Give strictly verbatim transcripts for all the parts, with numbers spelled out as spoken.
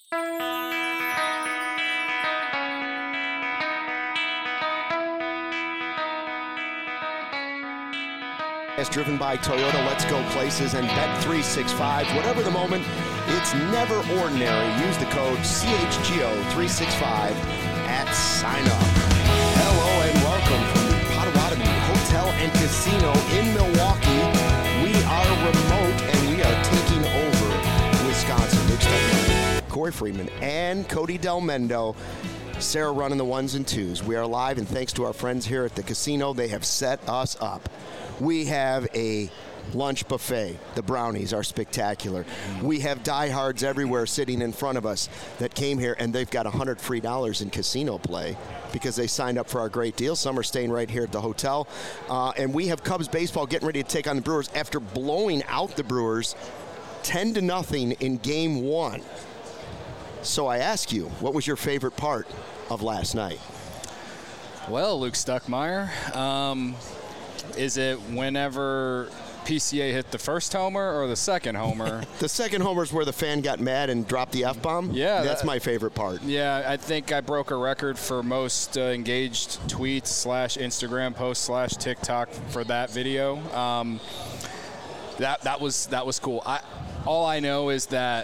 It's driven by Toyota. Let's go places and Bet three sixty-five. Whatever the moment, it's never ordinary. Use the code C H G O three sixty-five at sign up. Hello and welcome from the Potawatomi Hotel and Casino in Milwaukee. We are remote and we are taking over Wisconsin. Luke Stuckey, Corey Freeman, and Cody Del Mendo. Sarah running the ones and twos. We are live, and thanks to our friends here at the casino, they have set us up. We have a lunch buffet. The brownies are spectacular. We have diehards everywhere sitting in front of us that came here, and they've got one hundred free dollars in casino play because they signed up for our great deal. Some are staying right here at the hotel. Uh, and we have Cubs baseball getting ready to take on the Brewers after blowing out the Brewers ten to nothing in game one. So I ask you, what was your favorite part of last night? Well, Luke Stuckmeyer, um, is it whenever P C A hit the first homer or the second homer? The second homer is where the fan got mad and dropped the F-bomb? Yeah. That's that, my favorite part. Yeah, I think I broke a record for most uh, engaged tweets slash Instagram posts slash TikTok for that video. Um, that that was that was cool. I, all I know is that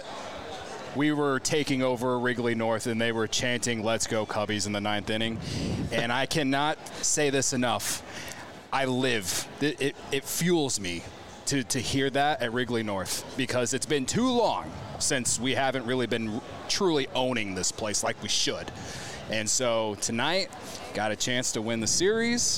we were taking over Wrigley North, and they were chanting, "Let's go Cubbies" in the ninth inning. And I cannot say this enough. I live. It, it, it fuels me to, to hear that at Wrigley North because it's been too long since we haven't really been truly owning this place like we should. And so tonight, got a chance to win the series,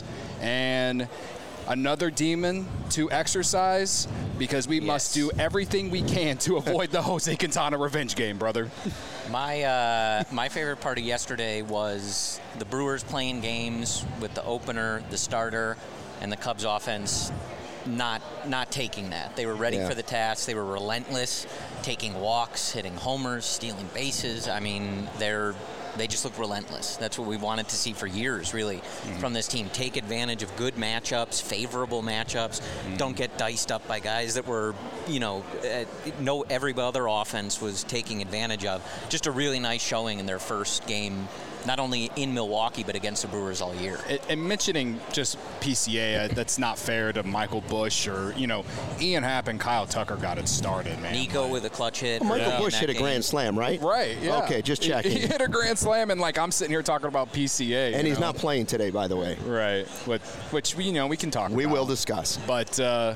and another demon to exercise because we yes. must do everything we can to avoid the Jose Quintana revenge game, brother. My uh, my favorite part of yesterday was the Brewers playing games with the opener, the starter, and the Cubs offense not not taking that. They were ready yeah. for the task. They were relentless, taking walks, hitting homers, stealing bases. I mean, they're They just look relentless. That's what we wanted to see for years, really, mm-hmm. from this team. Take advantage of good matchups, favorable matchups. Mm-hmm. Don't get diced up by guys that were, you know, uh, no every other offense was taking advantage of. Just a really nice showing in their first game, not only in Milwaukee, but against the Brewers all year. And mentioning just P C A, uh, that's not fair to Michael Busch or, you know, Ian Happ and Kyle Tucker got it started, man. Nico like, with a clutch hit. Well, Michael yeah. Busch hit a game. grand slam, right? Right, yeah. Okay, just checking. He, he hit a grand slam, and, like, I'm sitting here talking about P C A. And he's know? not playing today, by the way. Right, which, which you know, we can talk we about. We will discuss. But uh,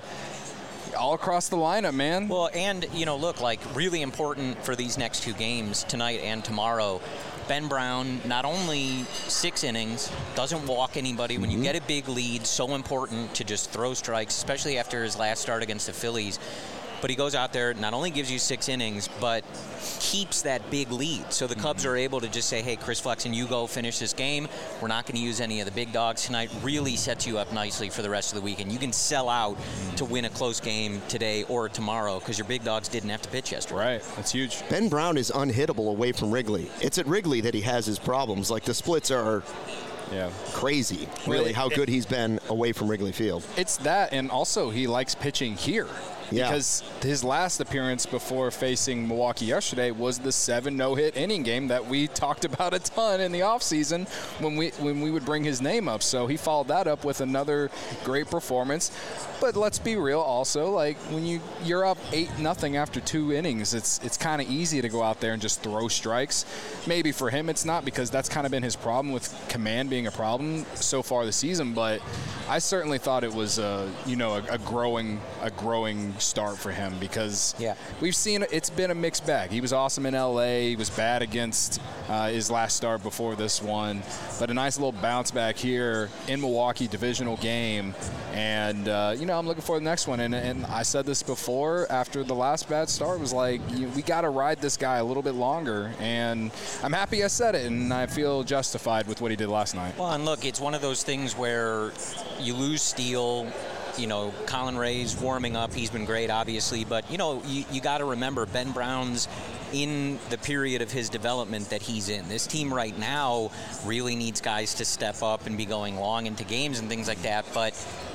all across the lineup, man. Well, and, you know, look, like, really important for these next two games, tonight and tomorrow, Ben Brown, not only six innings, doesn't walk anybody. When you mm-hmm. get a big lead, so important to just throw strikes, especially after his last start against the Phillies. But he goes out there, not only gives you six innings, but keeps that big lead. So the mm-hmm. Cubs are able to just say, hey, Chris Flexen, you go finish this game. We're not going to use any of the big dogs tonight. Really sets you up nicely for the rest of the weekend. You can sell out mm-hmm. to win a close game today or tomorrow because your big dogs didn't have to pitch yesterday. Right. That's huge. Ben Brown is unhittable away from Wrigley. It's at Wrigley that he has his problems. Like, the splits are yeah. crazy, really, well, how good it, he's been away from Wrigley Field. It's that, and also he likes pitching here. Yeah. Because his last appearance before facing Milwaukee yesterday was the seven no-hit inning game that we talked about a ton in the offseason when we when we would bring his name up. So he followed that up with another great performance. But let's be real also, like when you, you're up eight nothing after two innings, it's it's kind of easy to go out there and just throw strikes. Maybe for him it's not because that's kind of been his problem with command being a problem so far this season. But I certainly thought it was a, you know, a, a growing a growing start for him because yeah. we've seen it's been a mixed bag. He was awesome in L A. He was bad against uh, his last start before this one, but a nice little bounce back here in Milwaukee, divisional game, and uh, you know I'm looking for the next one. And, and I said this before after the last bad start was like you, we got to ride this guy a little bit longer, and I'm happy I said it, and I feel justified with what he did last night. Well, and look, it's one of those things where you lose Steele. You know, Colin Ray's warming up. He's been great, obviously. But, you know, you, you got to remember Ben Brown's in the period of his development that he's in. This team right now really needs guys to step up and be going long into games and things like that. But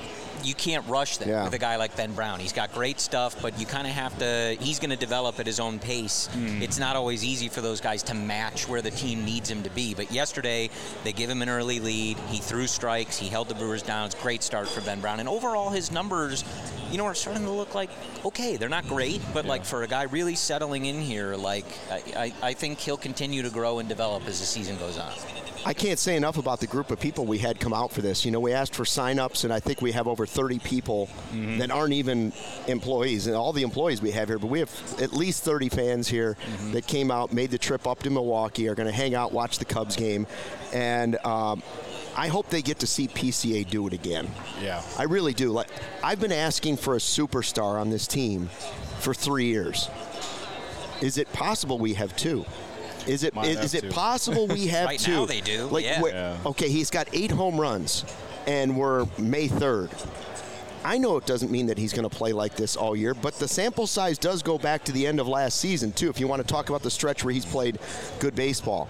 you can't rush them Yeah. with a guy like Ben Brown. He's got great stuff, but you kind of have to. He's going to develop at his own pace. Mm. It's not always easy for those guys to match where the team needs him to be. But yesterday, they give him an early lead. He threw strikes. He held the Brewers down. It's a great start for Ben Brown. And overall, his numbers, you know, are starting to look like okay. They're not great, but yeah. like for a guy really settling in here, like I, I, I think he'll continue to grow and develop as the season goes on. I can't say enough about the group of people we had come out for this. You know, we asked for sign-ups, and I think we have over thirty people mm-hmm. that aren't even employees, and all the employees we have here, but we have at least thirty fans here mm-hmm. that came out, made the trip up to Milwaukee, are going to hang out, watch the Cubs game, and um, I hope they get to see P C A do it again. Yeah. I really do. Like, I've been asking for a superstar on this team for three years. Is it possible we have two? Is it is, is it possible we have right two? Right now they do, like, yeah. yeah. Okay, he's got eight home runs, and we're May third. I know it doesn't mean that he's going to play like this all year, but the sample size does go back to the end of last season, too, if you want to talk about the stretch where he's played good baseball.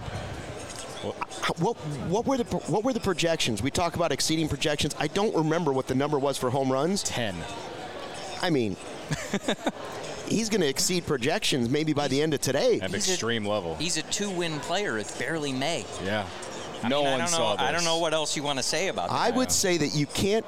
What what were the what were the projections? We talk about exceeding projections. I don't remember what the number was for home runs. Ten. I mean... He's going to exceed projections maybe by the end of today. At he's extreme a, level. He's a two-win player. It's barely May. Yeah. I no mean, one I don't saw know, this. I don't know what else you want to say about that. I would say that you can't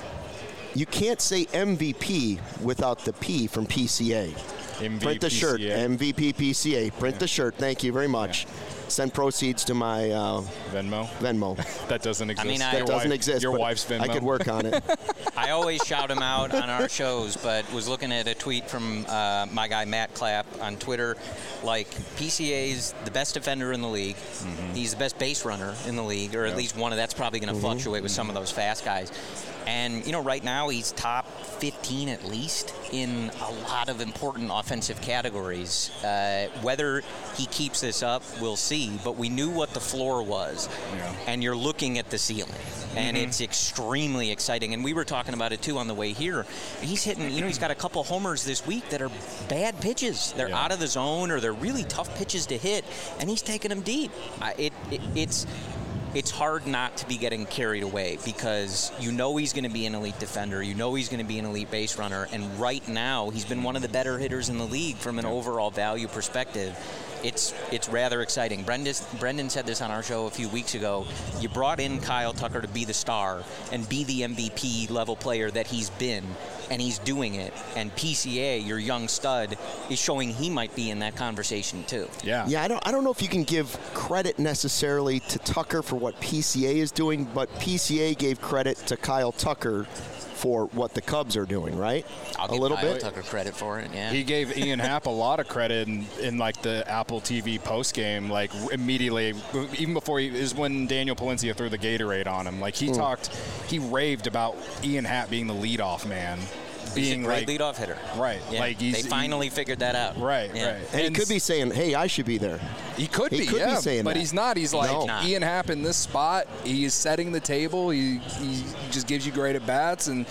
you can't say M V P without the P from P C A. M V P Print the shirt. P C A. M V P P C A. Print yeah. the shirt. Thank you very much. Yeah. Send proceeds to my uh, Venmo. Venmo. That doesn't exist. I mean, I, that doesn't wife, exist. Your but wife's Venmo. I could work on it. I always shout him out on our shows, but was looking at a tweet from uh, my guy Matt Clapp on Twitter. Like, P C A's the best defender in the league. Mm-hmm. He's the best base runner in the league, or at yep. least one of that's probably going to mm-hmm. fluctuate with mm-hmm. some of those fast guys. And, you know, right now he's top fifteen at least in a lot of important offensive categories. Uh, whether he keeps this up, we'll see. But we knew what the floor was. Yeah. And you're looking at the ceiling. And mm-hmm. it's extremely exciting. And we were talking about it, too, on the way here. He's hitting, you know, he's got a couple homers this week that are bad pitches. They're yeah. out of the zone, or they're really tough pitches to hit. And he's taking them deep. I, it, it It's... It's hard not to be getting carried away because you know he's going to be an elite defender. You know he's going to be an elite base runner. And right now, he's been one of the better hitters in the league from an overall value perspective. It's it's rather exciting. Brendan, Brendan said this on our show a few weeks ago. You brought in Kyle Tucker to be the star and be the M V P level player that he's been, and he's doing it. And P C A, your young stud, is showing he might be in that conversation too. Yeah. Yeah, I don't I don't know if you can give credit necessarily to Tucker for what P C A is doing, but P C A gave credit to Kyle Tucker for what the Cubs are doing, right? I'll a give little Kyle bit. Tucker credit for it. Yeah. He gave Ian Happ a lot of credit in, in like the Apple T V post game, like immediately, even before he is when Daniel Palencia threw the Gatorade on him. Like he mm. talked, he raved about Ian Happ being the leadoff man. Being he's a great like, leadoff hitter. Right. Yeah. Like he's, they finally he, figured that out. Right, yeah. right. And, and he could be saying, hey, I should be there. He could he be, could yeah, be saying but that. he's not. He's like, no. Ian Happ in this spot, he's setting the table. He, he just gives you great at-bats. And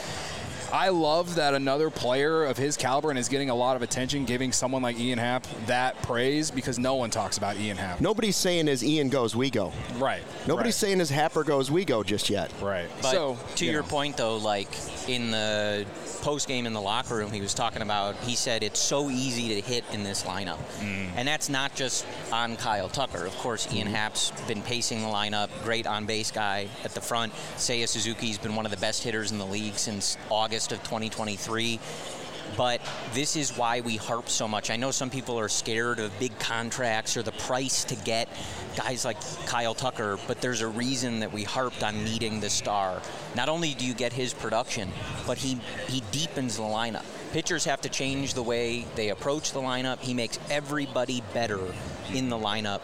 I love that another player of his caliber and is getting a lot of attention, giving someone like Ian Happ that praise because no one talks about Ian Happ. Nobody's saying as Ian goes, we go. Right. Nobody's right. saying as Happer goes, we go just yet. Right. But so, to you your know. point, though, like in the post-game in the locker room, he was talking about, he said it's so easy to hit in this lineup. Mm. And that's not just on Kyle Tucker. Of course, Ian mm. Happ's been pacing the lineup, great on-base guy at the front. Seiya Suzuki's been one of the best hitters in the league since August of twenty twenty-three. But this is why we harp so much. I know some people are scared of big contracts or the price to get guys like Kyle Tucker, but there's a reason that we harped on needing the star. Not only do you get his production, but he, he deepens the lineup. Pitchers have to change the way they approach the lineup. He makes everybody better in the lineup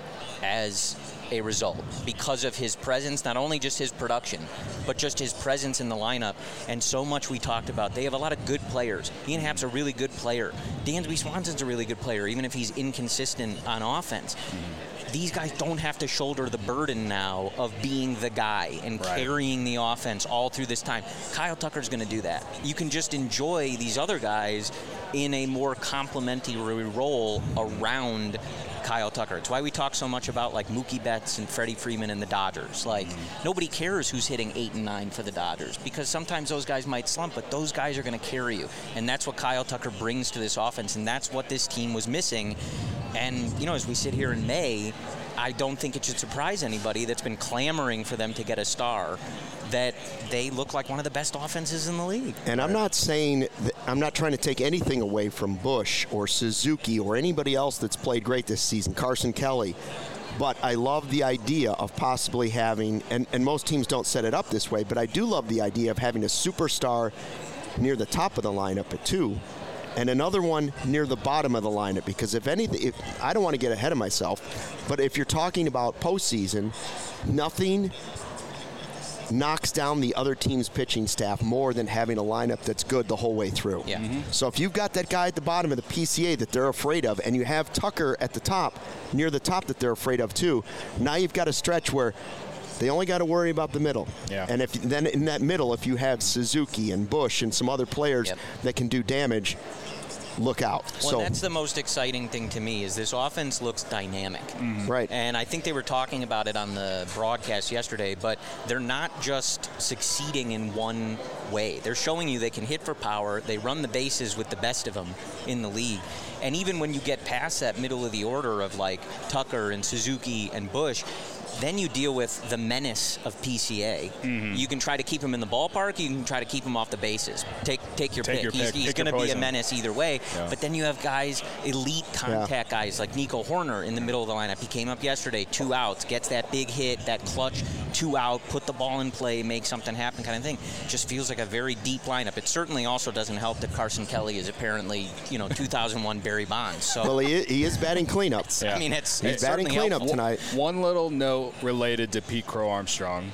as a result because of his presence, not only just his production, but just his presence in the lineup. And so much we talked about. They have a lot of good players. Ian Happ's a really good player. Dansby Swanson's a really good player, even if he's inconsistent on offense. Mm-hmm. These guys don't have to shoulder the burden now of being the guy and right. carrying the offense all through this time. Kyle Tucker's going to do that. You can just enjoy these other guys in a more complementary role around Kyle Tucker. It's why we talk so much about like Mookie Betts and Freddie Freeman and the Dodgers. Like mm-hmm. nobody cares who's hitting eight and nine for the Dodgers because sometimes those guys might slump, but those guys are going to carry you. And that's what Kyle Tucker brings to this offense, and that's what this team was missing. And, you know, as we sit here in May, I don't think it should surprise anybody that's been clamoring for them to get a star that they look like one of the best offenses in the league. And I'm not saying, that, I'm not trying to take anything away from Bush or Suzuki or anybody else that's played great this season, Carson Kelly. But I love the idea of possibly having, and, and most teams don't set it up this way, but I do love the idea of having a superstar near the top of the lineup at two, and another one near the bottom of the lineup. Because if anything, if, I don't want to get ahead of myself, but if you're talking about postseason, nothing knocks down the other team's pitching staff more than having a lineup that's good the whole way through. Yeah. Mm-hmm. So if you've got that guy at the bottom of the P C A that they're afraid of, and you have Tucker at the top, near the top that they're afraid of too, now you've got a stretch where they only got to worry about the middle. Yeah. And if then in that middle, if you have Suzuki and Bush and some other players yep. that can do damage, look out. Well, so that's the most exciting thing to me is this offense looks dynamic. Mm-hmm. Right. And I think they were talking about it on the broadcast yesterday, but they're not just succeeding in one way. They're showing you they can hit for power. They run the bases with the best of them in the league. And even when you get past that middle of the order of like Tucker and Suzuki and Bush, then you deal with the menace of P C A. Mm-hmm. You can try to keep him in the ballpark. You can try to keep him off the bases. Take take your take pick. Your he's pick. he's going to be a menace either way. Yeah. But then you have guys, elite contact yeah. guys like Nico Horner in the middle of the lineup. He came up yesterday, two outs, gets that big hit, that clutch, two out, put the ball in play, make something happen kind of thing. Just feels like a very deep lineup. It certainly also doesn't help that Carson Kelly is apparently, you know, two thousand one Barry Bonds. So well, he is, he is batting cleanup. Yeah. I mean, it's he's it's batting cleanup helpful. tonight. One little note related to Pete Crow Armstrong.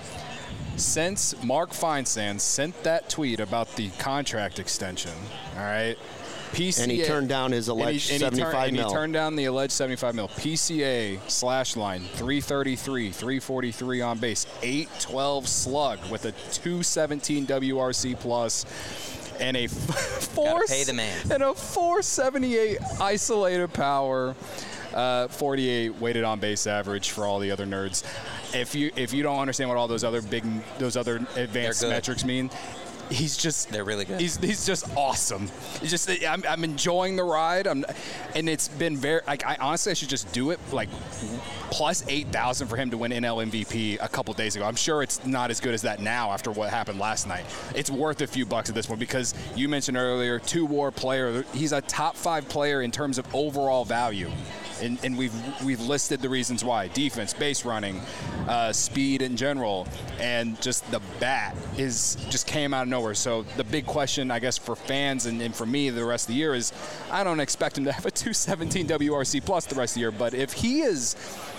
Since Mark Feinsand sent that tweet about the contract extension, all right, P C A, and he turned down his alleged and he, and he seventy-five turned, mil. And he turned down the alleged seventy-five mil. P C A slash line three thirty-three, three forty-three on base, eight twelve slug with a two seventeen W R C plus. And a four pay the man. and a four seventy-eight isolated power, uh, forty-eight weighted on base average for all the other nerds. If you if you don't understand what all those other big those other advanced metrics mean, he's just they're really good. He's he's just awesome. He's just I'm, I'm enjoying the ride. I'm, and it's been very like I honestly I should just do it like plus eight thousand for him to win N L M V P a couple days ago. I'm sure it's not as good as that now after what happened last night. It's worth a few bucks at this point because you mentioned earlier two-war player. He's a top five player in terms of overall value. And, and we've we've listed the reasons why: defense, base running, uh, speed in general, and just the bat is just came out of nowhere. So the big question, I guess, for fans and, and for me the rest of the year is, I don't expect him to have a two seventeen W R C plus the rest of the year, but if he is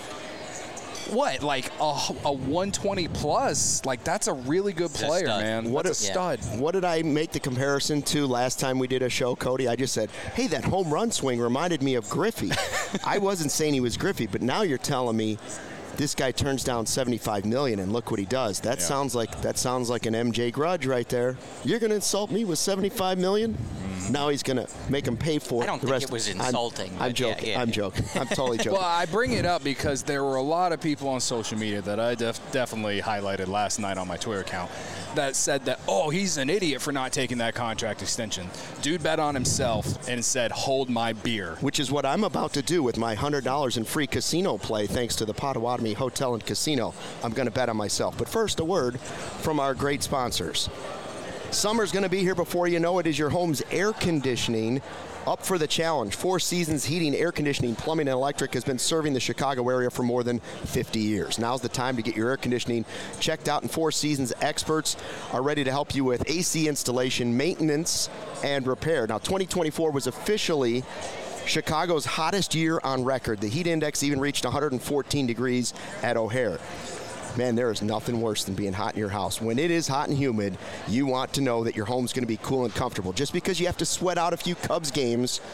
what like a, a one twenty plus, like that's a really good player, man. What that's a, a stud. Yeah. What did I make the comparison to last time we did a show, Cody? I just said, hey, that home run swing reminded me of Griffey. I wasn't saying he was Griffey, but now you're telling me this guy turns down seventy-five million dollars and look what he does. That yeah. sounds like that sounds like an M J Grudge right there. You're going to insult me with seventy-five million dollars? Mm. Now he's going to make him pay for I don't the think rest. it was insulting. I'm, I'm joking. Yeah, yeah, I'm yeah. joking. I'm totally joking. Well, I bring it up because there were a lot of people on social media that I def- definitely highlighted last night on my Twitter account that said that, oh, he's an idiot for not taking that contract extension. Dude bet on himself and said, hold my beer. Which is what I'm about to do with my one hundred dollars in free casino play thanks to the Potawatomi Hotel and Casino. I'm going to bet on myself. But first, a word from our great sponsors. Summer's going to be here before you know it. Is your home's air conditioning up for the challenge? Four Seasons Heating, Air Conditioning, Plumbing, and Electric has been serving the Chicago area for more than fifty years. Now's the time to get your air conditioning checked out, and Four Seasons experts are ready to help you with A C installation, maintenance, and repair. Now, twenty twenty-four was officially Chicago's hottest year on record. The heat index even reached one hundred fourteen degrees at O'Hare. Man, there is nothing worse than being hot in your house. When it is hot and humid, you want to know that your home's going to be cool and comfortable. Just because you have to sweat out a few Cubs games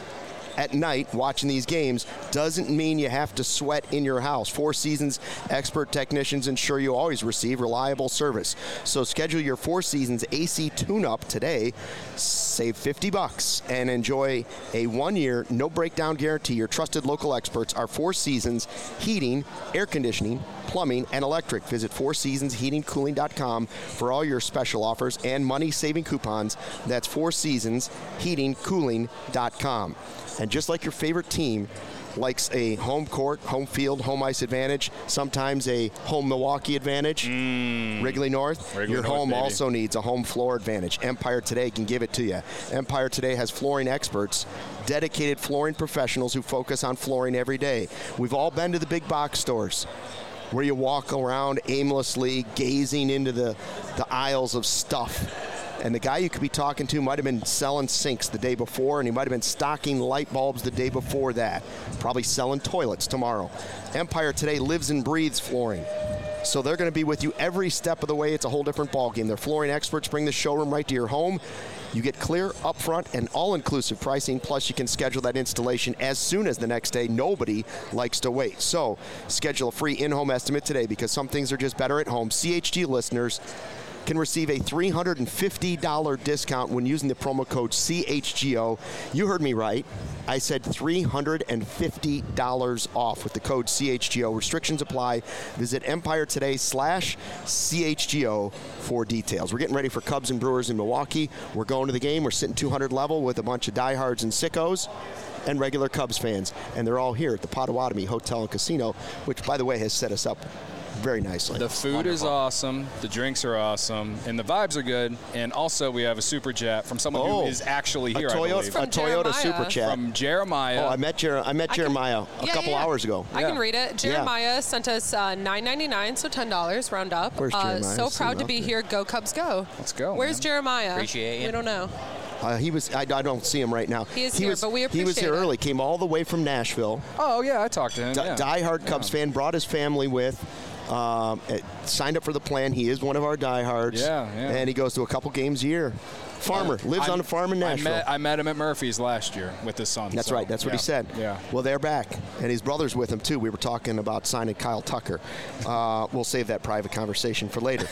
at night watching these games doesn't mean you have to sweat in your house. Four Seasons expert technicians ensure you always receive reliable service. So schedule your Four Seasons A C tune-up today. Save fifty bucks and enjoy a one-year, no-breakdown guarantee. Your trusted local experts are Four Seasons Heating, Air Conditioning, Plumbing, and Electric. Visit four seasons heating cooling dot com for all your special offers and money-saving coupons. That's four seasons heating cooling dot com. And just like your favorite team likes a home court, home field, home ice advantage, sometimes a home Milwaukee advantage, mm. Wrigley North, Wrigley your North, home baby. also needs a home floor advantage. Empire Today can give it to you. Empire Today has flooring experts, dedicated flooring professionals who focus on flooring every day. We've all been to the big box stores where you walk around aimlessly gazing into the, the aisles of stuff. And the guy you could be talking to might have been selling sinks the day before, and he might have been stocking light bulbs the day before that. Probably selling toilets tomorrow. Empire Today lives and breathes flooring. So they're going to be with you every step of the way. It's a whole different ballgame. Their flooring experts bring the showroom right to your home. You get clear, upfront, and all-inclusive pricing, plus you can schedule that installation as soon as the next day. Nobody likes to wait. So schedule a free in-home estimate today, because some things are just better at home. C H G listeners can receive a three hundred fifty dollars discount when using the promo code C H G O. You heard me right. I said three hundred fifty dollars off with the code C H G O. Restrictions apply. Visit Empire Today slash C H G O for details. We're getting ready for Cubs and Brewers in Milwaukee. We're going to the game. We're sitting two hundred level with a bunch of diehards and sickos and regular Cubs fans. And they're all here at the Potawatomi Hotel and Casino, which, by the way, has set us up very nicely. The food Wonderful. is awesome, the drinks are awesome, and the vibes are good. And also, we have a super chat from someone oh, who is actually here. A Toyota, I believe. a Toyota super chat from Jeremiah. Oh, I met Jer- I met I Jeremiah can, a yeah, couple yeah, yeah. hours ago. I yeah. can read it. Jeremiah yeah. sent us uh, nine ninety-nine, so ten dollars round up. Where's uh, Jeremiah? so proud to be there. here. Go Cubs, go! Let's go. Where's man. Jeremiah? Appreciate you. We don't know. Uh, he was. I, I don't see him right now. He is he here, was, but we He was here appreciate it. early. Came all the way from Nashville. Oh yeah, I talked to him. D- yeah. Diehard Cubs yeah. fan. Brought his family with. Um, it, signed up for the plan. He is one of our diehards. Yeah, yeah. And he goes to a couple games a year. Farmer. Uh, lives I, on a farm in Nashville. I met, I met him at Murphy's last year with his son. That's so, right. That's what yeah. he said. Yeah. Well, they're back, and his brother's with him too. We were talking about signing Kyle Tucker. Uh, we'll save that private conversation for later.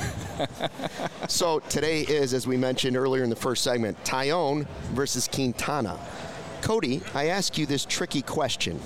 So today is, as we mentioned earlier in the first segment, Taillon versus Quintana. Cody, I ask you this tricky question.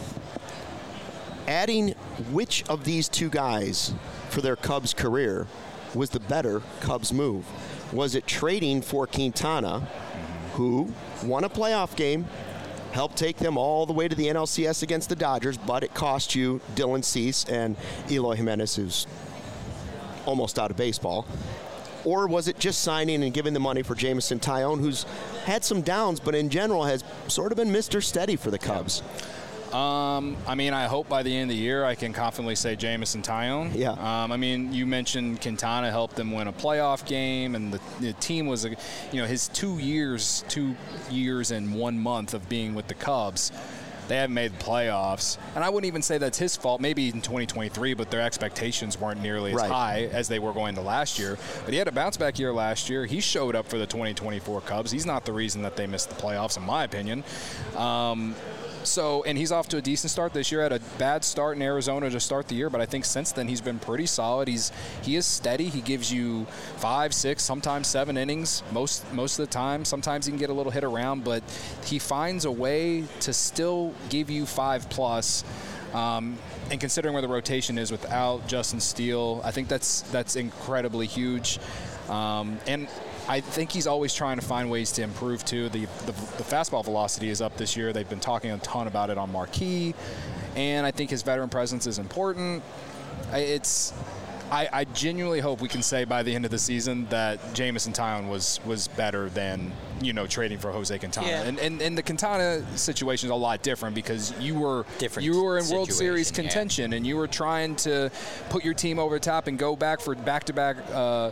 Adding which of these two guys for their Cubs career was the better Cubs move? Was it trading for Quintana, who won a playoff game, helped take them all the way to the N L C S against the Dodgers, but it cost you Dylan Cease and Eloy Jimenez, who's almost out of baseball? Or was it just signing and giving the money for Jameson Taillon, who's had some downs, but in general has sort of been Mister Steady for the Cubs? Um, I mean, I hope by the end of the year I can confidently say Jameson Taillon. Yeah. Um, I mean, you mentioned Quintana helped them win a playoff game, and the, the team was, a, you know, his two years, two years and one month of being with the Cubs. They haven't made the playoffs. And I wouldn't even say that's his fault, maybe in twenty twenty-three, but their expectations weren't nearly as right. high as they were going to last year. But he had a bounce-back year last year. He showed up for the twenty twenty-four Cubs. He's not the reason that they missed the playoffs, in my opinion. Um, So, and he's off to a decent start this year. Had a bad start in Arizona to start the year, but I think since then he's been pretty solid. He's he is steady. He gives you five, six, sometimes seven innings most most of the time. Sometimes he can get a little hit around, but he finds a way to still give you five plus. Um, and considering where the rotation is without Justin Steele, I think that's that's incredibly huge. Um, and I think he's always trying to find ways to improve, too. The, the the fastball velocity is up this year. They've been talking a ton about it on Marquee, and I think his veteran presence is important. It's I, I genuinely hope we can say by the end of the season that Jameson Taillon was was better than, you know, trading for Jose Quintana. Yeah. And, and and the Quintana situation is a lot different because you were Different you were in World situation, Series yeah. contention, and you were trying to put your team over the top and go back for back-to-back uh,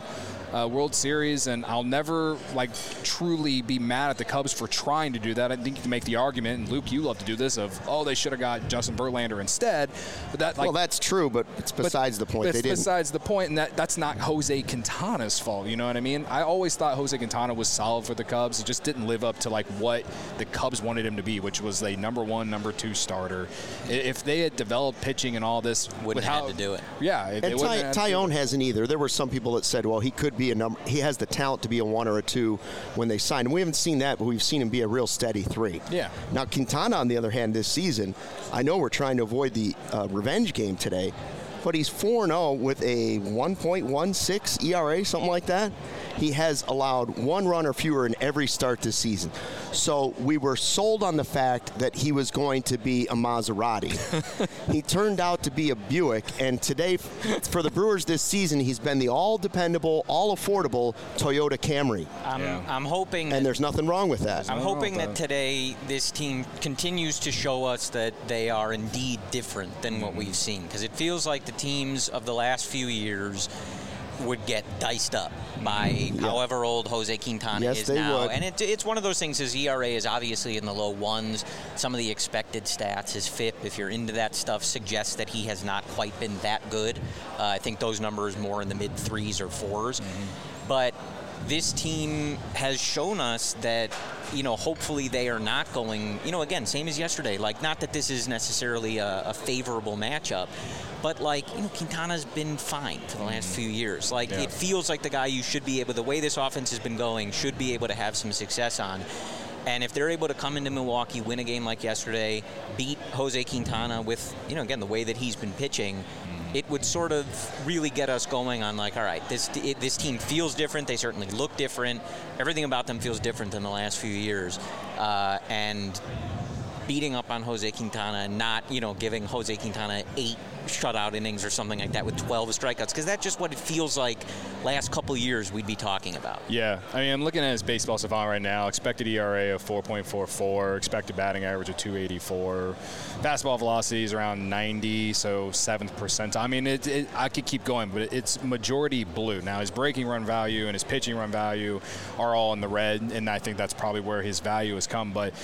uh, World Series, and I'll never like truly be mad at the Cubs for trying to do that. I think you can make the argument, and Luke, you love to do this, of oh they should have got Justin Verlander instead. But that like well, that's true, but it's besides but the point. It's they didn't. besides the point, and that that's not Jose Quintana's fault. You know what I mean? I always thought Jose Quintana was solid for the Cubs. He just didn't live up to like what the Cubs wanted him to be, which was a number one, number two starter. If they had developed pitching and all this, wouldn't have had to do it. Yeah, and Ty, Tyone hasn't either. There were some people that said, well, he could be a number. He has the talent to be a one or a two when they signed him. We haven't seen that, but we've seen him be a real steady three. Yeah. Now Quintana, on the other hand, this season, I know we're trying to avoid the uh, revenge game today, but he's four and oh with a one point one six E R A, something like that. He has allowed one run or fewer in every start this season. So we were sold on the fact that he was going to be a Maserati. He turned out to be a Buick, and today, for the Brewers this season, he's been the all-dependable, all-affordable Toyota Camry. I'm, Yeah. I'm hoping... And there's nothing wrong with that. I'm Nothing wrong hoping with that that. today this team continues to show us that they are indeed different than what we've seen, because it feels like the teams of the last few years would get diced up by however old Jose Quintana Yes, is they now. would. And it, it's one of those things. His E R A is obviously in the low ones. Some of the expected stats, his F I P, if you're into that stuff, suggests that he has not quite been that good. Uh, I think those numbers more in the mid threes or fours. Mm-hmm. But this team has shown us that, you know, hopefully they are not going, you know, again, same as yesterday. Like, not that this is necessarily a, a favorable matchup, but, like, you know, Quintana's been fine for the last few years. Like, Yeah. it feels like the guy you should be able, the way this offense has been going, should be able to have some success on. And if they're able to come into Milwaukee, win a game like yesterday, beat Jose Quintana with, you know, again, the way that he's been pitching, it would sort of really get us going on, like, all right, this it, this team feels different. They certainly look different. Everything about them feels different than the last few years. Uh, and beating up on Jose Quintana and not, you know, giving Jose Quintana eight shutout innings or something like that with twelve strikeouts, because that's just what it feels like last couple years we'd be talking about. Yeah, I mean, I'm looking at his baseball savant right now. Expected E R A of four point four four, expected batting average of two eighty-four, fastball velocity is around ninety, so seventh percentile. I mean, it, it, I could keep going, but it's majority blue. Now, his breaking run value and his pitching run value are all in the red, and I think that's probably where his value has come. But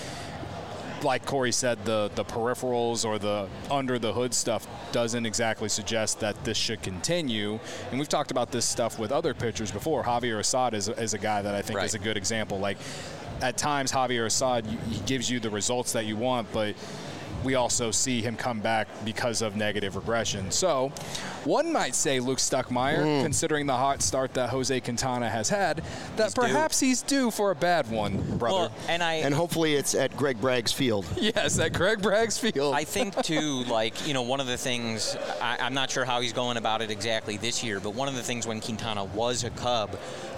like Corey said, the, the peripherals or the under the hood stuff doesn't exactly suggest that this should continue. And we've talked about this stuff with other pitchers before. Javier Assad is, is a guy that I think Right. is a good example. Like, at times, Javier Assad, he gives you the results that you want, but we also see him come back because of negative regression. So one might say Luke Stuckmeyer, Mm. considering the hot start that Jose Quintana has had, that He's due. perhaps he's due for a bad one, brother. Well, and I And hopefully it's at Greg Bragg's field. Yes, at Greg Bragg's field. I think, too, like, you know, one of the things, I, I'm not sure how he's going about it exactly this year, but one of the things when Quintana was a Cub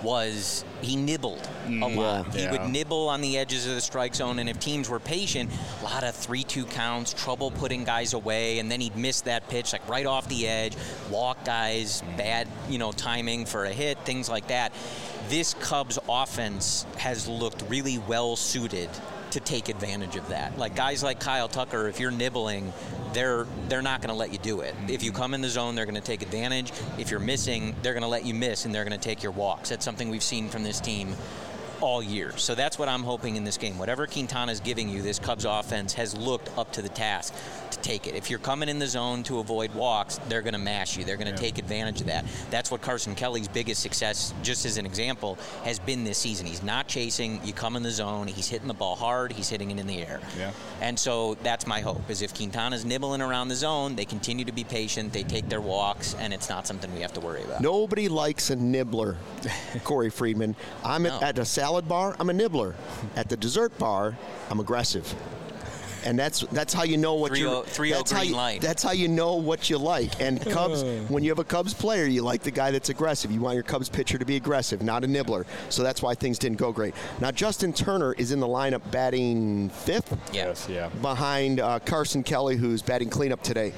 was he nibbled a lot. Yeah. He Yeah. would nibble on the edges of the strike zone, and if teams were patient, a lot of three two counts, trouble putting guys away, and then he'd miss that pitch, like, right off the edge, walk guys, bad, you know, timing for a hit, things like that. This Cubs offense has looked really well suited to take advantage of that. Like, guys like Kyle Tucker, if you're nibbling, they're they're not going to let you do it. If you come in the zone, they're going to take advantage. If you're missing, they're going to let you miss, and they're going to take your walks. That's something we've seen from this team all year. So that's what I'm hoping in this game. Whatever Quintana's giving you, this Cubs offense has looked up to the task to take it. If you're coming in the zone to avoid walks, they're going to mash you. They're going to Yeah. take advantage of that. That's what Carson Kelly's biggest success, just as an example, has been this season. He's not chasing. You come in the zone. He's hitting the ball hard. He's hitting it in the air. Yeah. And so that's my hope, is if Quintana's nibbling around the zone, they continue to be patient, they take their walks, and it's not something we have to worry about. Nobody likes a nibbler, Corey Friedman. I'm No. at, at a salad bar, I'm a nibbler. At the dessert bar, I'm aggressive. And that's that's how you know what three you oh- three oh that's how green you, light. That's how you know what you like. And Cubs, when you have a Cubs player, you like the guy that's aggressive. You want your Cubs pitcher to be aggressive, not a nibbler. So that's why things didn't go great. Now Justin Turner is in the lineup batting fifth Yeah. Yes, yeah. behind uh, Carson Kelly, who's batting cleanup today.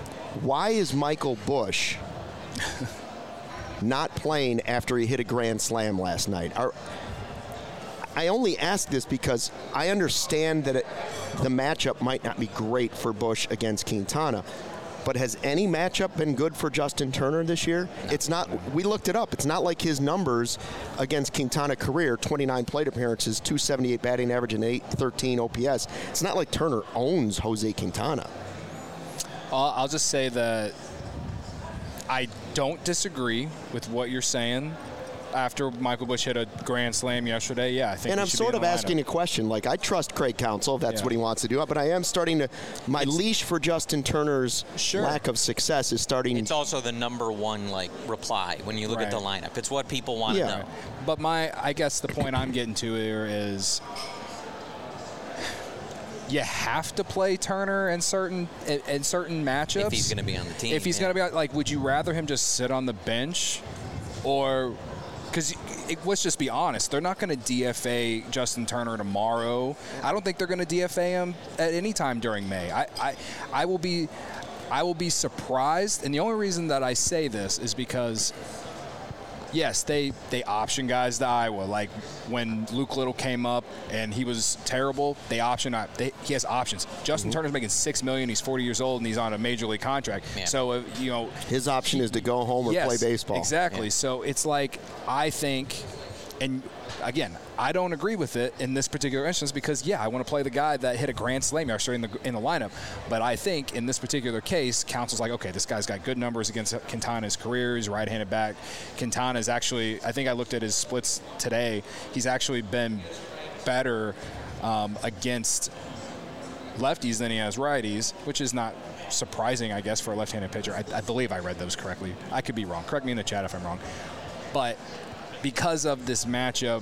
Why is Michael Busch not playing after he hit a grand slam last night? Are, I only ask this because I understand that it, the matchup might not be great for Busch against Quintana, but has any matchup been good for Justin Turner this year? No. It's not. We looked it up. It's not like his numbers against Quintana career, twenty-nine plate appearances, two seventy-eight batting average, and eight thirteen O P S. It's not like Turner owns Jose Quintana. Uh, I'll just say that I don't disagree with what you're saying. After Michael Busch hit a grand slam yesterday, yeah, I think. And he I'm should sort be in of the asking lineup. a question. Like, I trust Craig Counsell if that's Yeah. what he wants to do, but I am starting to. My It's, leash for Justin Turner's sure. lack of success is starting. It's also the number one like reply when you look Right. at the lineup. It's what people want to Yeah. know. Right. But my, I guess the point I'm getting to here is, you have to play Turner in certain in, in certain matchups. If he's going to be on the team. If he's yeah. going to be like, would you rather him just sit on the bench, or because let's just be honest, they're not going to D F A Justin Turner tomorrow. I don't think they're going to D F A him at any time during May. I, I, I will be, I will be surprised, and the only reason that I say this is because. Yes, they, they option guys to Iowa. Like when Luke Little came up and he was terrible, they option. They, he has options. Justin mm-hmm. Turner's making six million. He's forty years old and he's on a major league contract. Yeah. So uh, you know, his option is to go home or yes, play baseball. Exactly. Yeah. So it's like I think, and again, I don't agree with it in this particular instance because yeah, I want to play the guy that hit a grand slam yesterday in the in the lineup. But I think in this particular case, Counsell's like, okay, this guy's got good numbers against Quintana's career. He's right-handed back. Quintana's actually, I think I looked at his splits today. He's actually been better um, against lefties than he has righties, which is not surprising, I guess, for a left-handed pitcher. I, I believe I read those correctly. I could be wrong. Correct me in the chat if I'm wrong. But because of this matchup,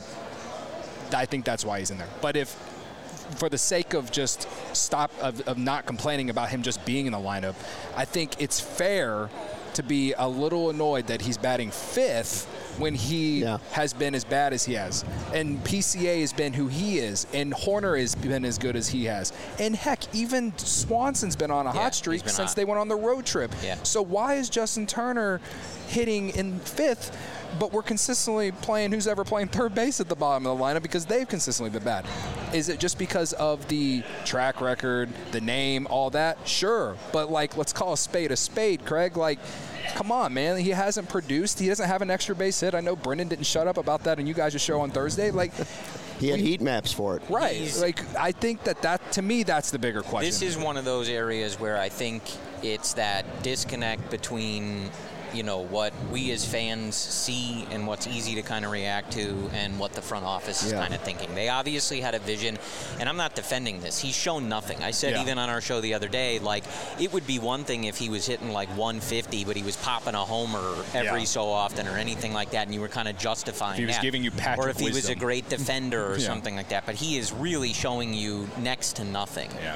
I think that's why he's in there. But if, for the sake of just stop of, of not complaining about him just being in the lineup, I think it's fair to be a little annoyed that he's batting fifth when he yeah. has been as bad as he has. And P C A has been who he is, and Horner has been as good as he has. And heck, even Swanson's been on a yeah, hot streak since hot. they went on the road trip. Yeah. So why is Justin Turner hitting in fifth, but we're consistently playing who's ever playing third base at the bottom of the lineup because they've consistently been bad? Is it just because of the track record, the name, all that? Sure. But, like, let's call a spade a spade, Craig. Like, come on, man. He hasn't produced. He doesn't have an extra base hit. I know Brendan didn't shut up about that on you guys' show on Thursday. Like, he had we, heat maps for it. Right. He's, like, I think that, that, to me, that's the bigger question. This is one of those areas where I think it's that disconnect between – you know, what we as fans see and what's easy to kind of react to and what the front office is yeah. kind of thinking. They obviously had a vision, and I'm not defending this. He's shown nothing. I said yeah. even on our show the other day, like, it would be one thing if he was hitting like one fifty, but he was popping a homer every yeah. so often or anything like that, and you were kind of justifying if he was that. giving you Patrick Or if he wisdom. was a great defender or yeah. something like that. But he is really showing you next to nothing. Yeah.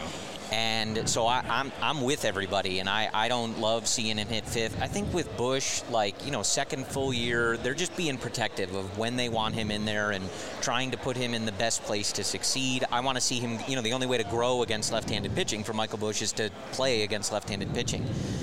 And so I, I'm I'm with everybody, and I, I don't love seeing him hit fifth. I think with Busch, like, you know, second full year, they're just being protective of when they want him in there and trying to put him in the best place to succeed. I want to see him, you know, the only way to grow against left-handed pitching for Michael Busch is to play against left-handed pitching.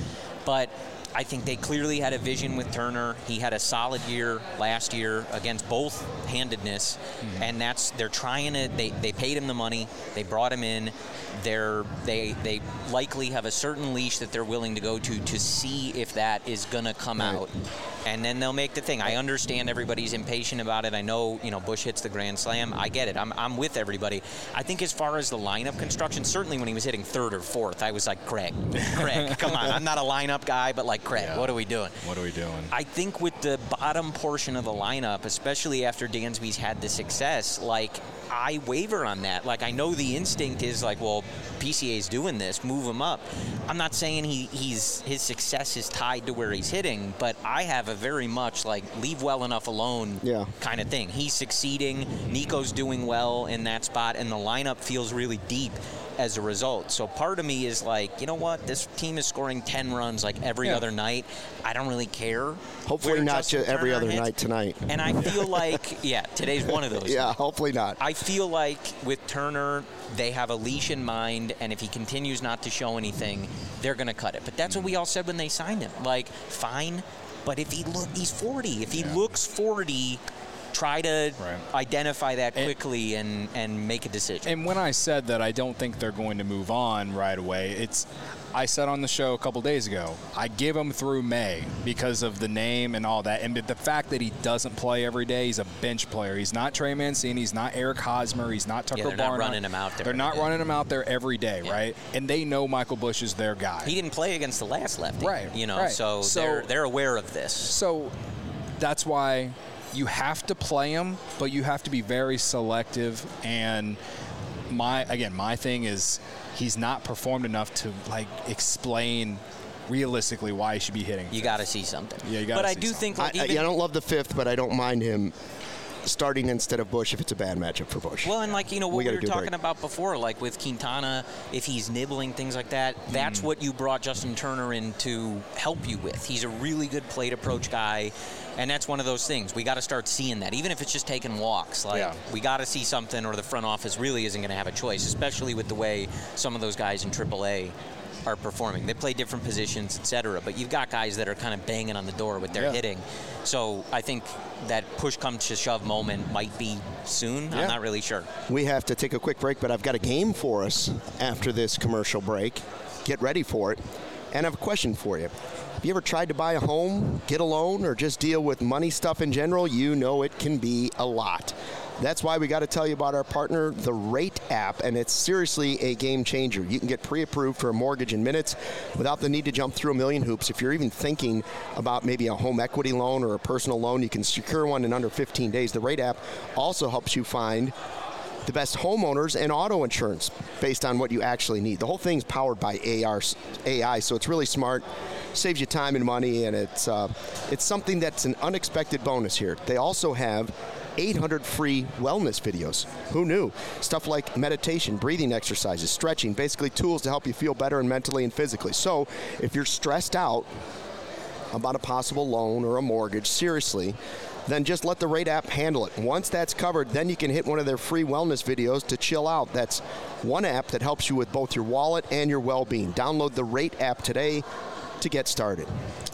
But I think they clearly had a vision with Turner. He had a solid year last year against both handedness, mm-hmm. and that's they're trying to. They, they paid him the money. They brought him in. They're they they likely have a certain leash that they're willing to go to to see if that is gonna come right. out, and then they'll make the thing. I understand everybody's impatient about it. I know you know Busch hits the grand slam. I get it. I'm I'm with everybody. I think as far as the lineup construction, certainly when he was hitting third or fourth, I was like, Craig, Craig, come on. I'm not a lineup guy, but like Craig, yeah. what are we doing? What are we doing? I think with the bottom portion of the lineup, especially after Dansby's had the success, like. I waver on that. Like, I know the instinct is like, well, P C A's doing this, move him up. I'm not saying he, he's his success is tied to where he's hitting, but I have a very much like leave well enough alone yeah. kind of thing. He's succeeding. Nico's doing well in that spot, and the lineup feels really deep as a result. So part of me is like, you know what? This team is scoring ten runs like every yeah. other night. I don't really care. Hopefully not Justin every Turner other hits. night tonight. And I feel like, yeah, today's one of those. yeah, hopefully not. I feel like with Turner, they have a leash in mind, and if he continues not to show anything, they're going to cut it. But that's what we all said when they signed him. Like, fine, but if he look, he's forty. If he yeah. looks forty, try to right. identify that quickly and, and make a decision. And when I said that I don't think they're going to move on right away, it's I said on the show a couple days ago, I give him through May because of the name and all that. And the fact that he doesn't play every day, he's a bench player. He's not Trey Mancini. He's not Eric Hosmer. He's not Tucker yeah, they're Barnhart. Not running him out there. They're not day. running him out there every day, yeah. right? And they know Michael Bush is their guy. He didn't play against the last lefty. Right. You know, right. so, so they're, they're aware of this. So that's why you have to play him, but you have to be very selective. And my again, my thing is he's not performed enough to like explain realistically why he should be hitting. You got to see something. Yeah, you got to. But see I do something. think like I, even, I, I don't love the fifth, but I don't mind him starting instead of Bush if it's a bad matchup for Bush. Well, and like, you know, what we, we, we were talking about before, like with Quintana, if he's nibbling, things like that, that's mm. what you brought Justin Turner in to help you with. He's a really good plate approach guy, and that's one of those things. We got to start seeing that, even if it's just taking walks. Like, yeah. we got to see something, or the front office really isn't going to have a choice, especially with the way some of those guys in triple A are performing. They play different positions, et cetera, but you've got guys that are kind of banging on the door with their yeah. hitting. So I think that push comes to shove moment might be soon. Yeah. I'm not really sure. We have to take a quick break, but I've got a game for us after this commercial break. Get ready for it. And I have a question for you. Have you ever tried to buy a home, get a loan, or just deal with money stuff in general? You know it can be a lot. That's why we got to tell you about our partner, the Rate app, and it's seriously a game changer. You can get pre-approved for a mortgage in minutes without the need to jump through a million hoops. If you're even thinking about maybe a home equity loan or a personal loan, you can secure one in under fifteen days. The Rate app also helps you find the best homeowners and auto insurance based on what you actually need. The whole thing's powered by A I, so it's really smart. Saves you time and money, and it's uh, it's something that's an unexpected bonus here. They also have eight hundred free wellness videos. Who knew? Stuff like meditation, breathing exercises, stretching, basically tools to help you feel better and mentally and physically. So if you're stressed out about a possible loan or a mortgage, seriously, then just let the Rate app handle it. Once that's covered, then you can hit one of their free wellness videos to chill out. That's one app that helps you with both your wallet and your well-being. Download the Rate app today to get started.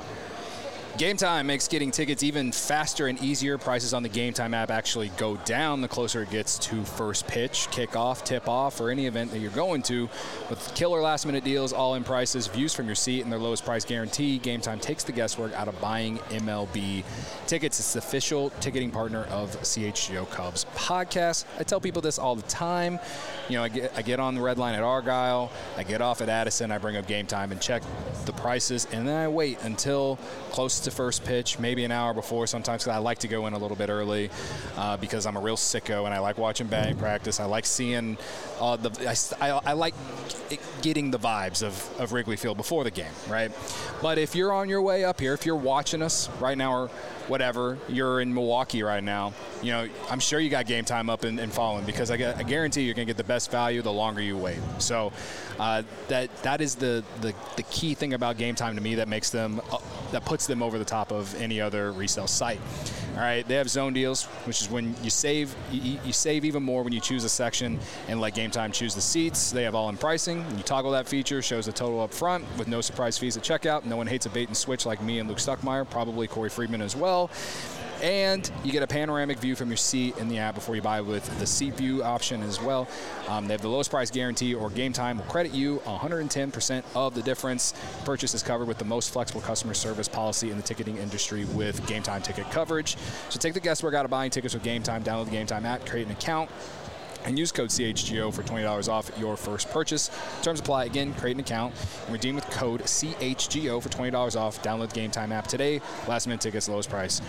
Game Time makes getting tickets even faster and easier. Prices on the Game Time app actually go down the closer it gets to first pitch, kickoff, tip-off, or any event that you're going to. With killer last-minute deals, all-in prices, views from your seat, and their lowest price guarantee, Game Time takes the guesswork out of buying M L B tickets. It's the official ticketing partner of C H G O Cubs podcast. I tell people this all the time. You know, I get, I get on the red line at Argyle, I get off at Addison, I bring up Game Time and check the prices, and then I wait until close to first pitch, maybe an hour before sometimes, because I like to go in a little bit early uh, because I'm a real sicko and I like watching batting practice. I like seeing uh, the I, I, I like getting the vibes of, of Wrigley Field before the game, right? But if you're on your way up here, if you're watching us right now or whatever, you're in Milwaukee right now, you know, I'm sure you got Game Time up and, and following, because I, get, I guarantee you're going to get the best value the longer you wait. So uh, that that is the, the, the key thing about Game Time to me that makes them, uh, that puts them over the top of any other resale site. All right, they have zone deals, which is when you save you, you save even more when you choose a section and let Game Time choose the seats. They have all-in pricing. When you toggle that feature, shows the total up front with no surprise fees at checkout. No one hates a bait and switch like me and Luke Stuckmeyer, probably Corey Friedman as well. And you get a panoramic view from your seat in the app before you buy with the seat view option as well. Um, they have the lowest price guarantee, or Game Time will credit you one hundred ten percent of the difference. Purchase is covered with the most flexible customer service policy in the ticketing industry with Game Time ticket coverage. So take the guesswork out of buying tickets with Game Time. Download the Game Time app, create an account, and use code C H G O for twenty dollars off your first purchase. Terms apply. Again, create an account and redeem with code C H G O for twenty dollars off. Download the Game Time app today. Last minute tickets, lowest price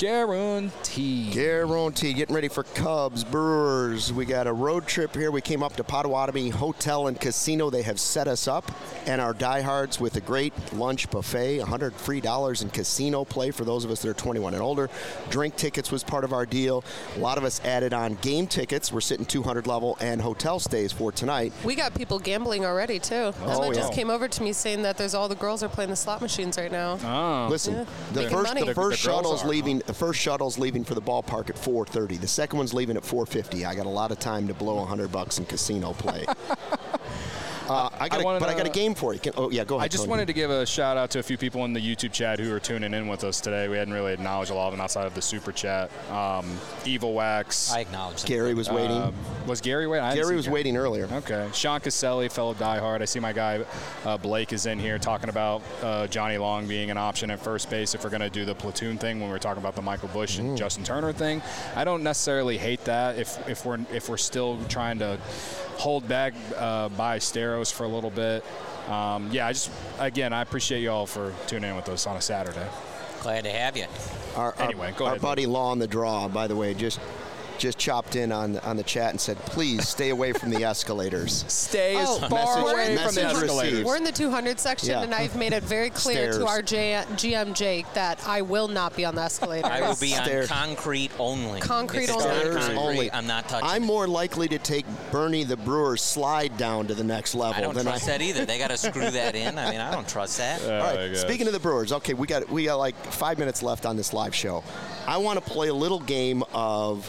guarantee. Guarantee. Getting ready for Cubs, Brewers. We got a road trip here. We came up to Potawatomi Hotel and Casino. They have set us up, and our diehards with a great lunch buffet, one hundred free dollars in casino play for those of us that are twenty-one and older. Drink tickets was part of our deal. A lot of us added on game tickets. We're sitting two hundred level and hotel stays for tonight. We got people gambling already, too. Oh, Emma yeah. just came over to me saying that there's all the girls are playing the slot machines right now. Oh. Listen, Yeah. the Making first money. the first The- the girls shuttle's are, leaving. The first shuttle's leaving for the ballpark at four thirty. The second one's leaving at four fifty. I got a lot of time to blow one hundred bucks in casino play. Uh, I got, I a, wanted but I got a to- game for you. Can, oh yeah, go ahead. I just Tony. wanted to give a shout out to a few people in the YouTube chat who are tuning in with us today. We hadn't really acknowledged a lot of them outside of the super chat. Um, Evil Wax. I acknowledge that. Gary was waiting. Uh, was Gary waiting? I didn't Gary see was waiting earlier. Okay. Sean Caselli, fellow diehard. I see my guy uh, Blake is in here talking about uh, Johnny Long being an option at first base if we're going to do the platoon thing when we we're talking about the Michael Bush and Justin Turner thing. I don't necessarily hate that if, if we're if we're still trying to hold back uh, by Steros for a little bit. Um, yeah, I just again I appreciate you all for tuning in with us on a Saturday. Glad to have you. Our, our, Anyway, go our ahead, buddy Law on the Draw, by the way, just just chopped in on on the chat and said, please stay away from the escalators. Stay as Oh, far message- away from the message escalators. received. We're in the two hundred section, Yeah. and I've made it very clear Stairs. to our J- G M Jake that I will not be on the escalator. I will be Stairs. on concrete only. Concrete if it's only. not Stairs concrete, only. I'm not touching I'm it. more likely to take Bernie the Brewer's slide down to the next level I don't than trust I. that either. They got to screw that in. I mean, I don't trust that. Oh, All my right. gosh. Speaking of the Brewers, okay, we got we got like five minutes left on this live show. I want to play a little game of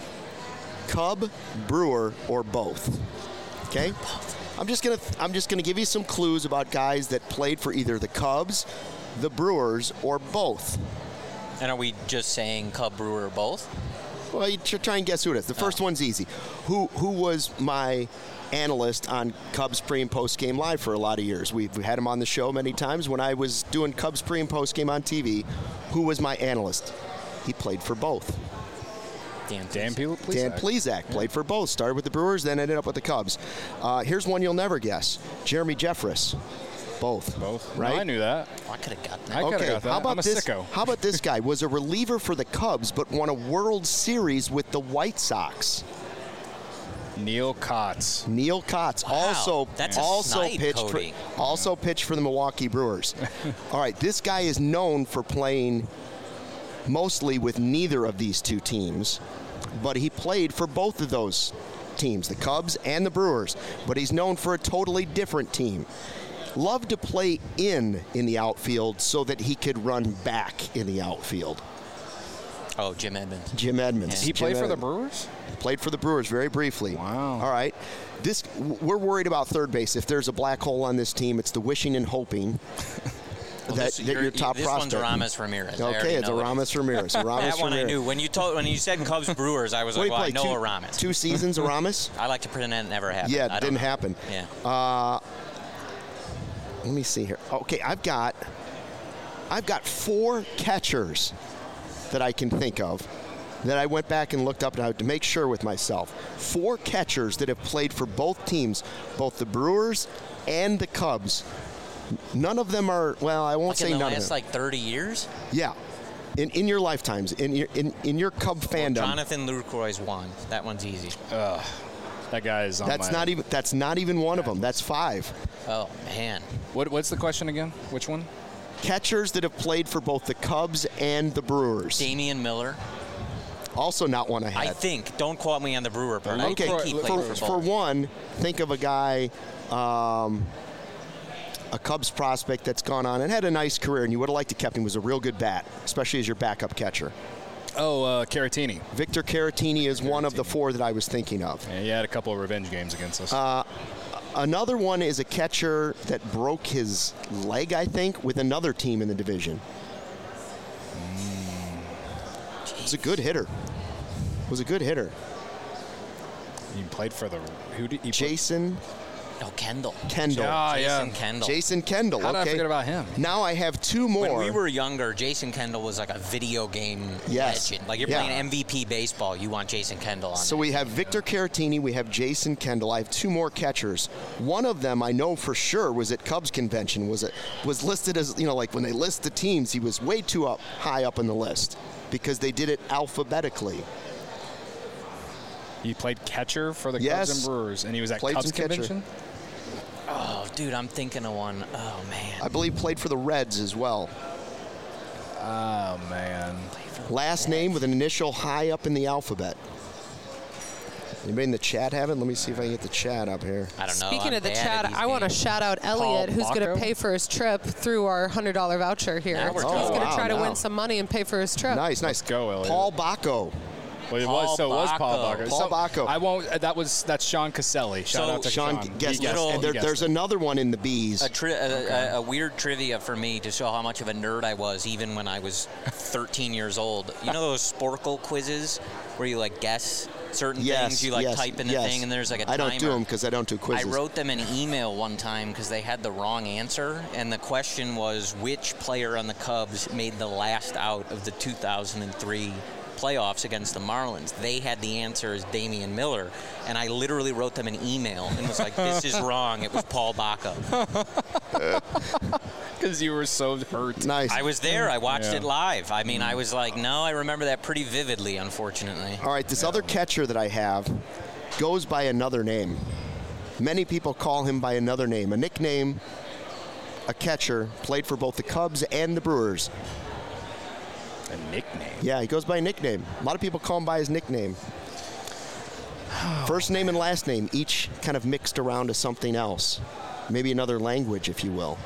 Cub, Brewer, or both. Okay. I'm just gonna I'm just gonna give you some clues about guys that played for either the Cubs, the Brewers, or both. And are we just saying Cub, Brewer, or both? Well, you should try and guess who it is. The first one's easy. Who who was my analyst on Cubs pre and post game live for a lot of years? We've had him on the show many times. When I was doing Cubs pre and post game on T V, who was my analyst? He played for both. Dan, Dan please. Plesac. Dan Plesac played for both. Started with the Brewers, then ended up with the Cubs. Uh, here's one you'll never guess. Jeremy Jeffress. Both. Both. Right? No, I knew that. Oh, I could have gotten that. I coulda Okay, got that. how about I'm a this? sicko. How about this guy? Was a reliever for the Cubs, but won a World Series with the White Sox. Neil Kotz. Neil Kotz Wow, also that's a also snipe, pitched Cody. for also pitched for the Milwaukee Brewers. All right, this guy is known for playing mostly with neither of these two teams, but he played for both of those teams, the Cubs and the Brewers. But he's known for a totally different team. Loved to play in in the outfield so that he could run back in the outfield. Oh, Jim Edmonds. Jim Edmonds. He Jim played for the Edmonds. Brewers? Played for the Brewers very briefly. Wow. All right. This we're worried about third base. If there's a black hole on this team, it's the wishing and hoping Well, that, this, that you're- your top this prospect. one's Aramis Ramirez. I Okay, already it's know it. Aramis Ramirez. Aramis That one I Ramirez. knew. When you told, when you said Cubs Brewers, I was What like, did well, he I play? know two, Aramis. two seasons, Aramis? I like to pretend that never happened. Yeah, I it don't didn't know. happen. Yeah. Uh, let me see here. Okay, I've got I've got four catchers that I can think of that I went back and looked up now to make sure with myself. Four catchers that have played for both teams, both the Brewers and the Cubs. None of them are, well, I won't Like say in the none of last them. like thirty years? Yeah. In, in your lifetimes, in your in, in your Cub Well, fandom, Jonathan Lucroy's one. That one's easy. That guy is on that's my... not even that's not even one of them. That's five. Oh, man. What, what's the question again? Which one? Catchers that have played for both the Cubs and the Brewers. Damian Miller. Also not one I I had. think. Don't quote me on the Brewer part. I Okay, think he for, played for, for, for both. one, think of a guy, um, a Cubs prospect that's gone on and had a nice career, and you would have liked to kept him. Was a real good bat, especially as your backup catcher. Oh, uh, Caratini. Victor Caratini is one of the four that I was thinking of. Yeah, he had a couple of revenge games against us. Uh, Another one is a catcher that broke his leg, I think, with another team in the division. Was a good hitter. Was a good hitter. he played for the... Who did he play- Jason No, Kendall. Kendall. Ah, Jason yeah. Kendall. Jason Kendall. How did okay. I forget about him? Now I have two more. When we were younger, Jason Kendall was like a video game Yes. legend. Like you're Yeah. playing M V P baseball, you want Jason Kendall on. So there. we have Victor Caratini, we have Jason Kendall. I have two more catchers. One of them I know for sure was at Cubs convention. Was it was listed as, you know, like when they list the teams, he was way too up high up in the list because they did it alphabetically. He played catcher for the Yes. Cubs and Brewers, and he was at Played Cubs some catcher. convention? Oh, dude, I'm thinking of one. Oh man. I believe played for the Reds as well. Oh, man. Last name with an initial high up in the alphabet. Anybody in the chat have it? Let me see if I can get the chat up here. I don't know. Speaking I'm of the bad at chat, these I want to games. shout out Elliot, who's going Bacco? to pay for his trip through our one hundred dollar voucher here. Now we're He's talking. going to Oh, try to wow, win now. some money and pay for his trip. Nice, nice. Let's go, Elliot. Paul Bacco. Well, it Paul was, so it was Paul Bacco. Bacco. Paul So Bacco. I won't. uh, That was that's Sean Caselli. Shout So out to Sean, Sean. guess, He guessed- Little- and there, he guessed there's it. another one in the bees. A, tri- a, a, a weird trivia for me to show how much of a nerd I was, even when I was thirteen years old. You know those Sporkle quizzes where you like guess certain yes, things? You like yes, type in the yes. thing, and there's like a I timer. don't do them because I don't do I quizzes. wrote them an email one time because they had the wrong answer, and the question was which player on the Cubs made the last out of the two thousand three playoffs against the Marlins. They had the answer as Damian Miller, and I literally wrote them an email and was like, "This is wrong." It was Paul Bacco. Because you were so hurt. Nice. I was there. I watched Yeah. it live. I mean, I was like, no, I remember that pretty vividly, unfortunately. All right, this other catcher that I have goes by another name. Many people call him by another name, a nickname, a catcher, played for both the Cubs and the Brewers. A nickname. Yeah, he goes by a nickname. A lot of people call him by his nickname. First name and last name, each kind of mixed around to something else. Maybe another language, if you will.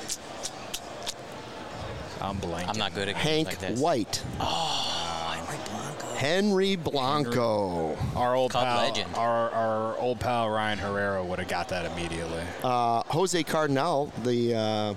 I'm blanking. I'm not good at games Hank like this. White. Oh, Henry Blanco. Henry Blanco. Our old Cub pal, legend. Our, our old pal Ryan Herrera would have got that immediately. Uh, Jose Cardinal, the uh,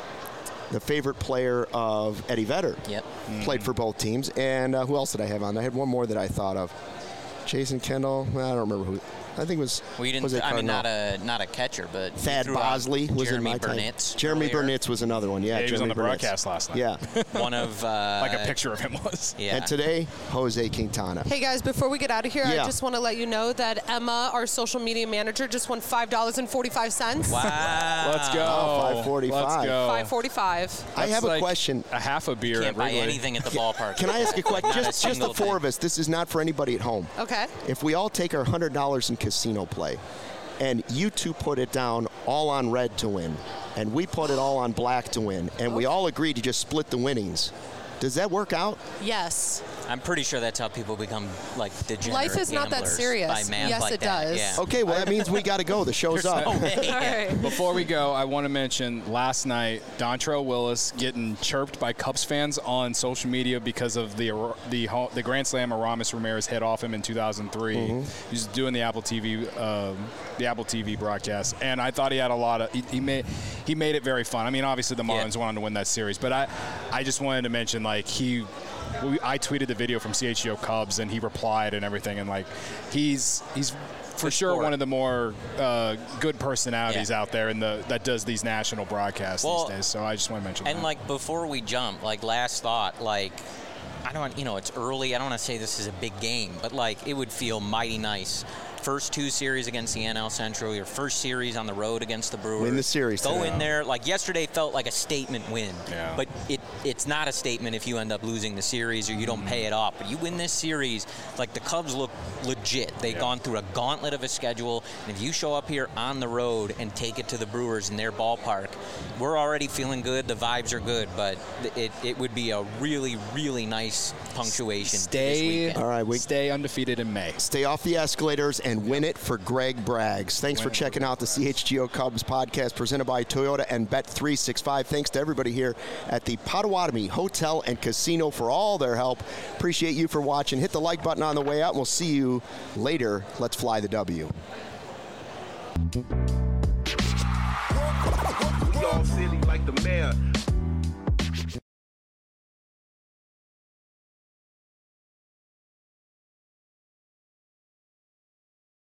the favorite player of Eddie Vedder, Yep. played for both teams. And uh, who else did I have on? I had one more that I thought of. Jason Kendall. I don't remember who. I think it was Well, you didn't. Jose I mean, Cardinal. not a not a catcher, but you Thad threw out Bosley was Jeremy in my time. Burnitz Jeremy earlier. Burnitz was another one. Yeah, Yeah, he was on Jeremy the Burnitz. broadcast last night. Yeah. One of uh, Like a picture of him was. Yeah. And today, Jose Quintana. Hey guys, before we get out of here, Yeah. I just want to let you know that Emma, our social media manager, just won five dollars and forty-five cents. Wow. Let's go. Oh, five forty-five. Let's go. five forty-five. I That's have a like question. A half a beer Can't at buy Wrigley. anything at the ballpark. Can I ask a question? Not a just, just the single four thing. of us. This is not for anybody at home. Okay. If we all take our one hundred dollars in casino play, and you two put it down all on red to win, and we put it all on black to win, and we all agree to just split the winnings, does that work out? Yes. I'm pretty sure that's how people become like degenerate Life is not that gamblers, serious. By math Yes, like it that. does. Yeah. Okay, well, that means we got to go. The show's up. No way. All right. Before we go, I want to mention last night, Dontrelle Willis getting chirped by Cubs fans on social media because of the the ho- the Grand Slam Aramis Ramirez hit off him in two thousand three. Mm-hmm. He was doing the Apple T V um, the Apple T V broadcast, and I thought he had a lot of he, he made he made it very fun. I mean, obviously the Marlins Yeah. wanted to win that series, but I I just wanted to mention like he. We, I tweeted the video from C H G O Cubs, and he replied and everything, and like he's he's for Good sure sport. one of the more uh, good personalities Yeah. out there in the that does these national broadcasts Well, these days. So I just want to mention And that. like before we jump, like last thought, like I don't want, you know, it's early. I don't want to say this is a big game, but like it would feel mighty nice. First two series against the N L Central, your first series on the road against the Brewers. Win the series Go today. in there. Like yesterday felt like a statement win. Yeah. But it it's not a statement if you end up losing the series or you don't pay it off. But you win this series, like the Cubs look legit. They've Yeah. gone through a gauntlet of a schedule. And if you show up here on the road and take it to the Brewers in their ballpark, we're already feeling good. The vibes are good. But it, it would be a really, really nice punctuation this stay weekend. All right, we- stay undefeated in May. Stay off the escalators and win it for Greg Braggs. Thanks for checking out the C H G O Cubs podcast presented by Toyota and Bet three sixty-five. Thanks to everybody here at the Potawatomi Hotel and Casino for all their help. Appreciate you for watching. Hit the like button on the way out, and we'll see you later. Let's fly the W. Dog City like the mayor.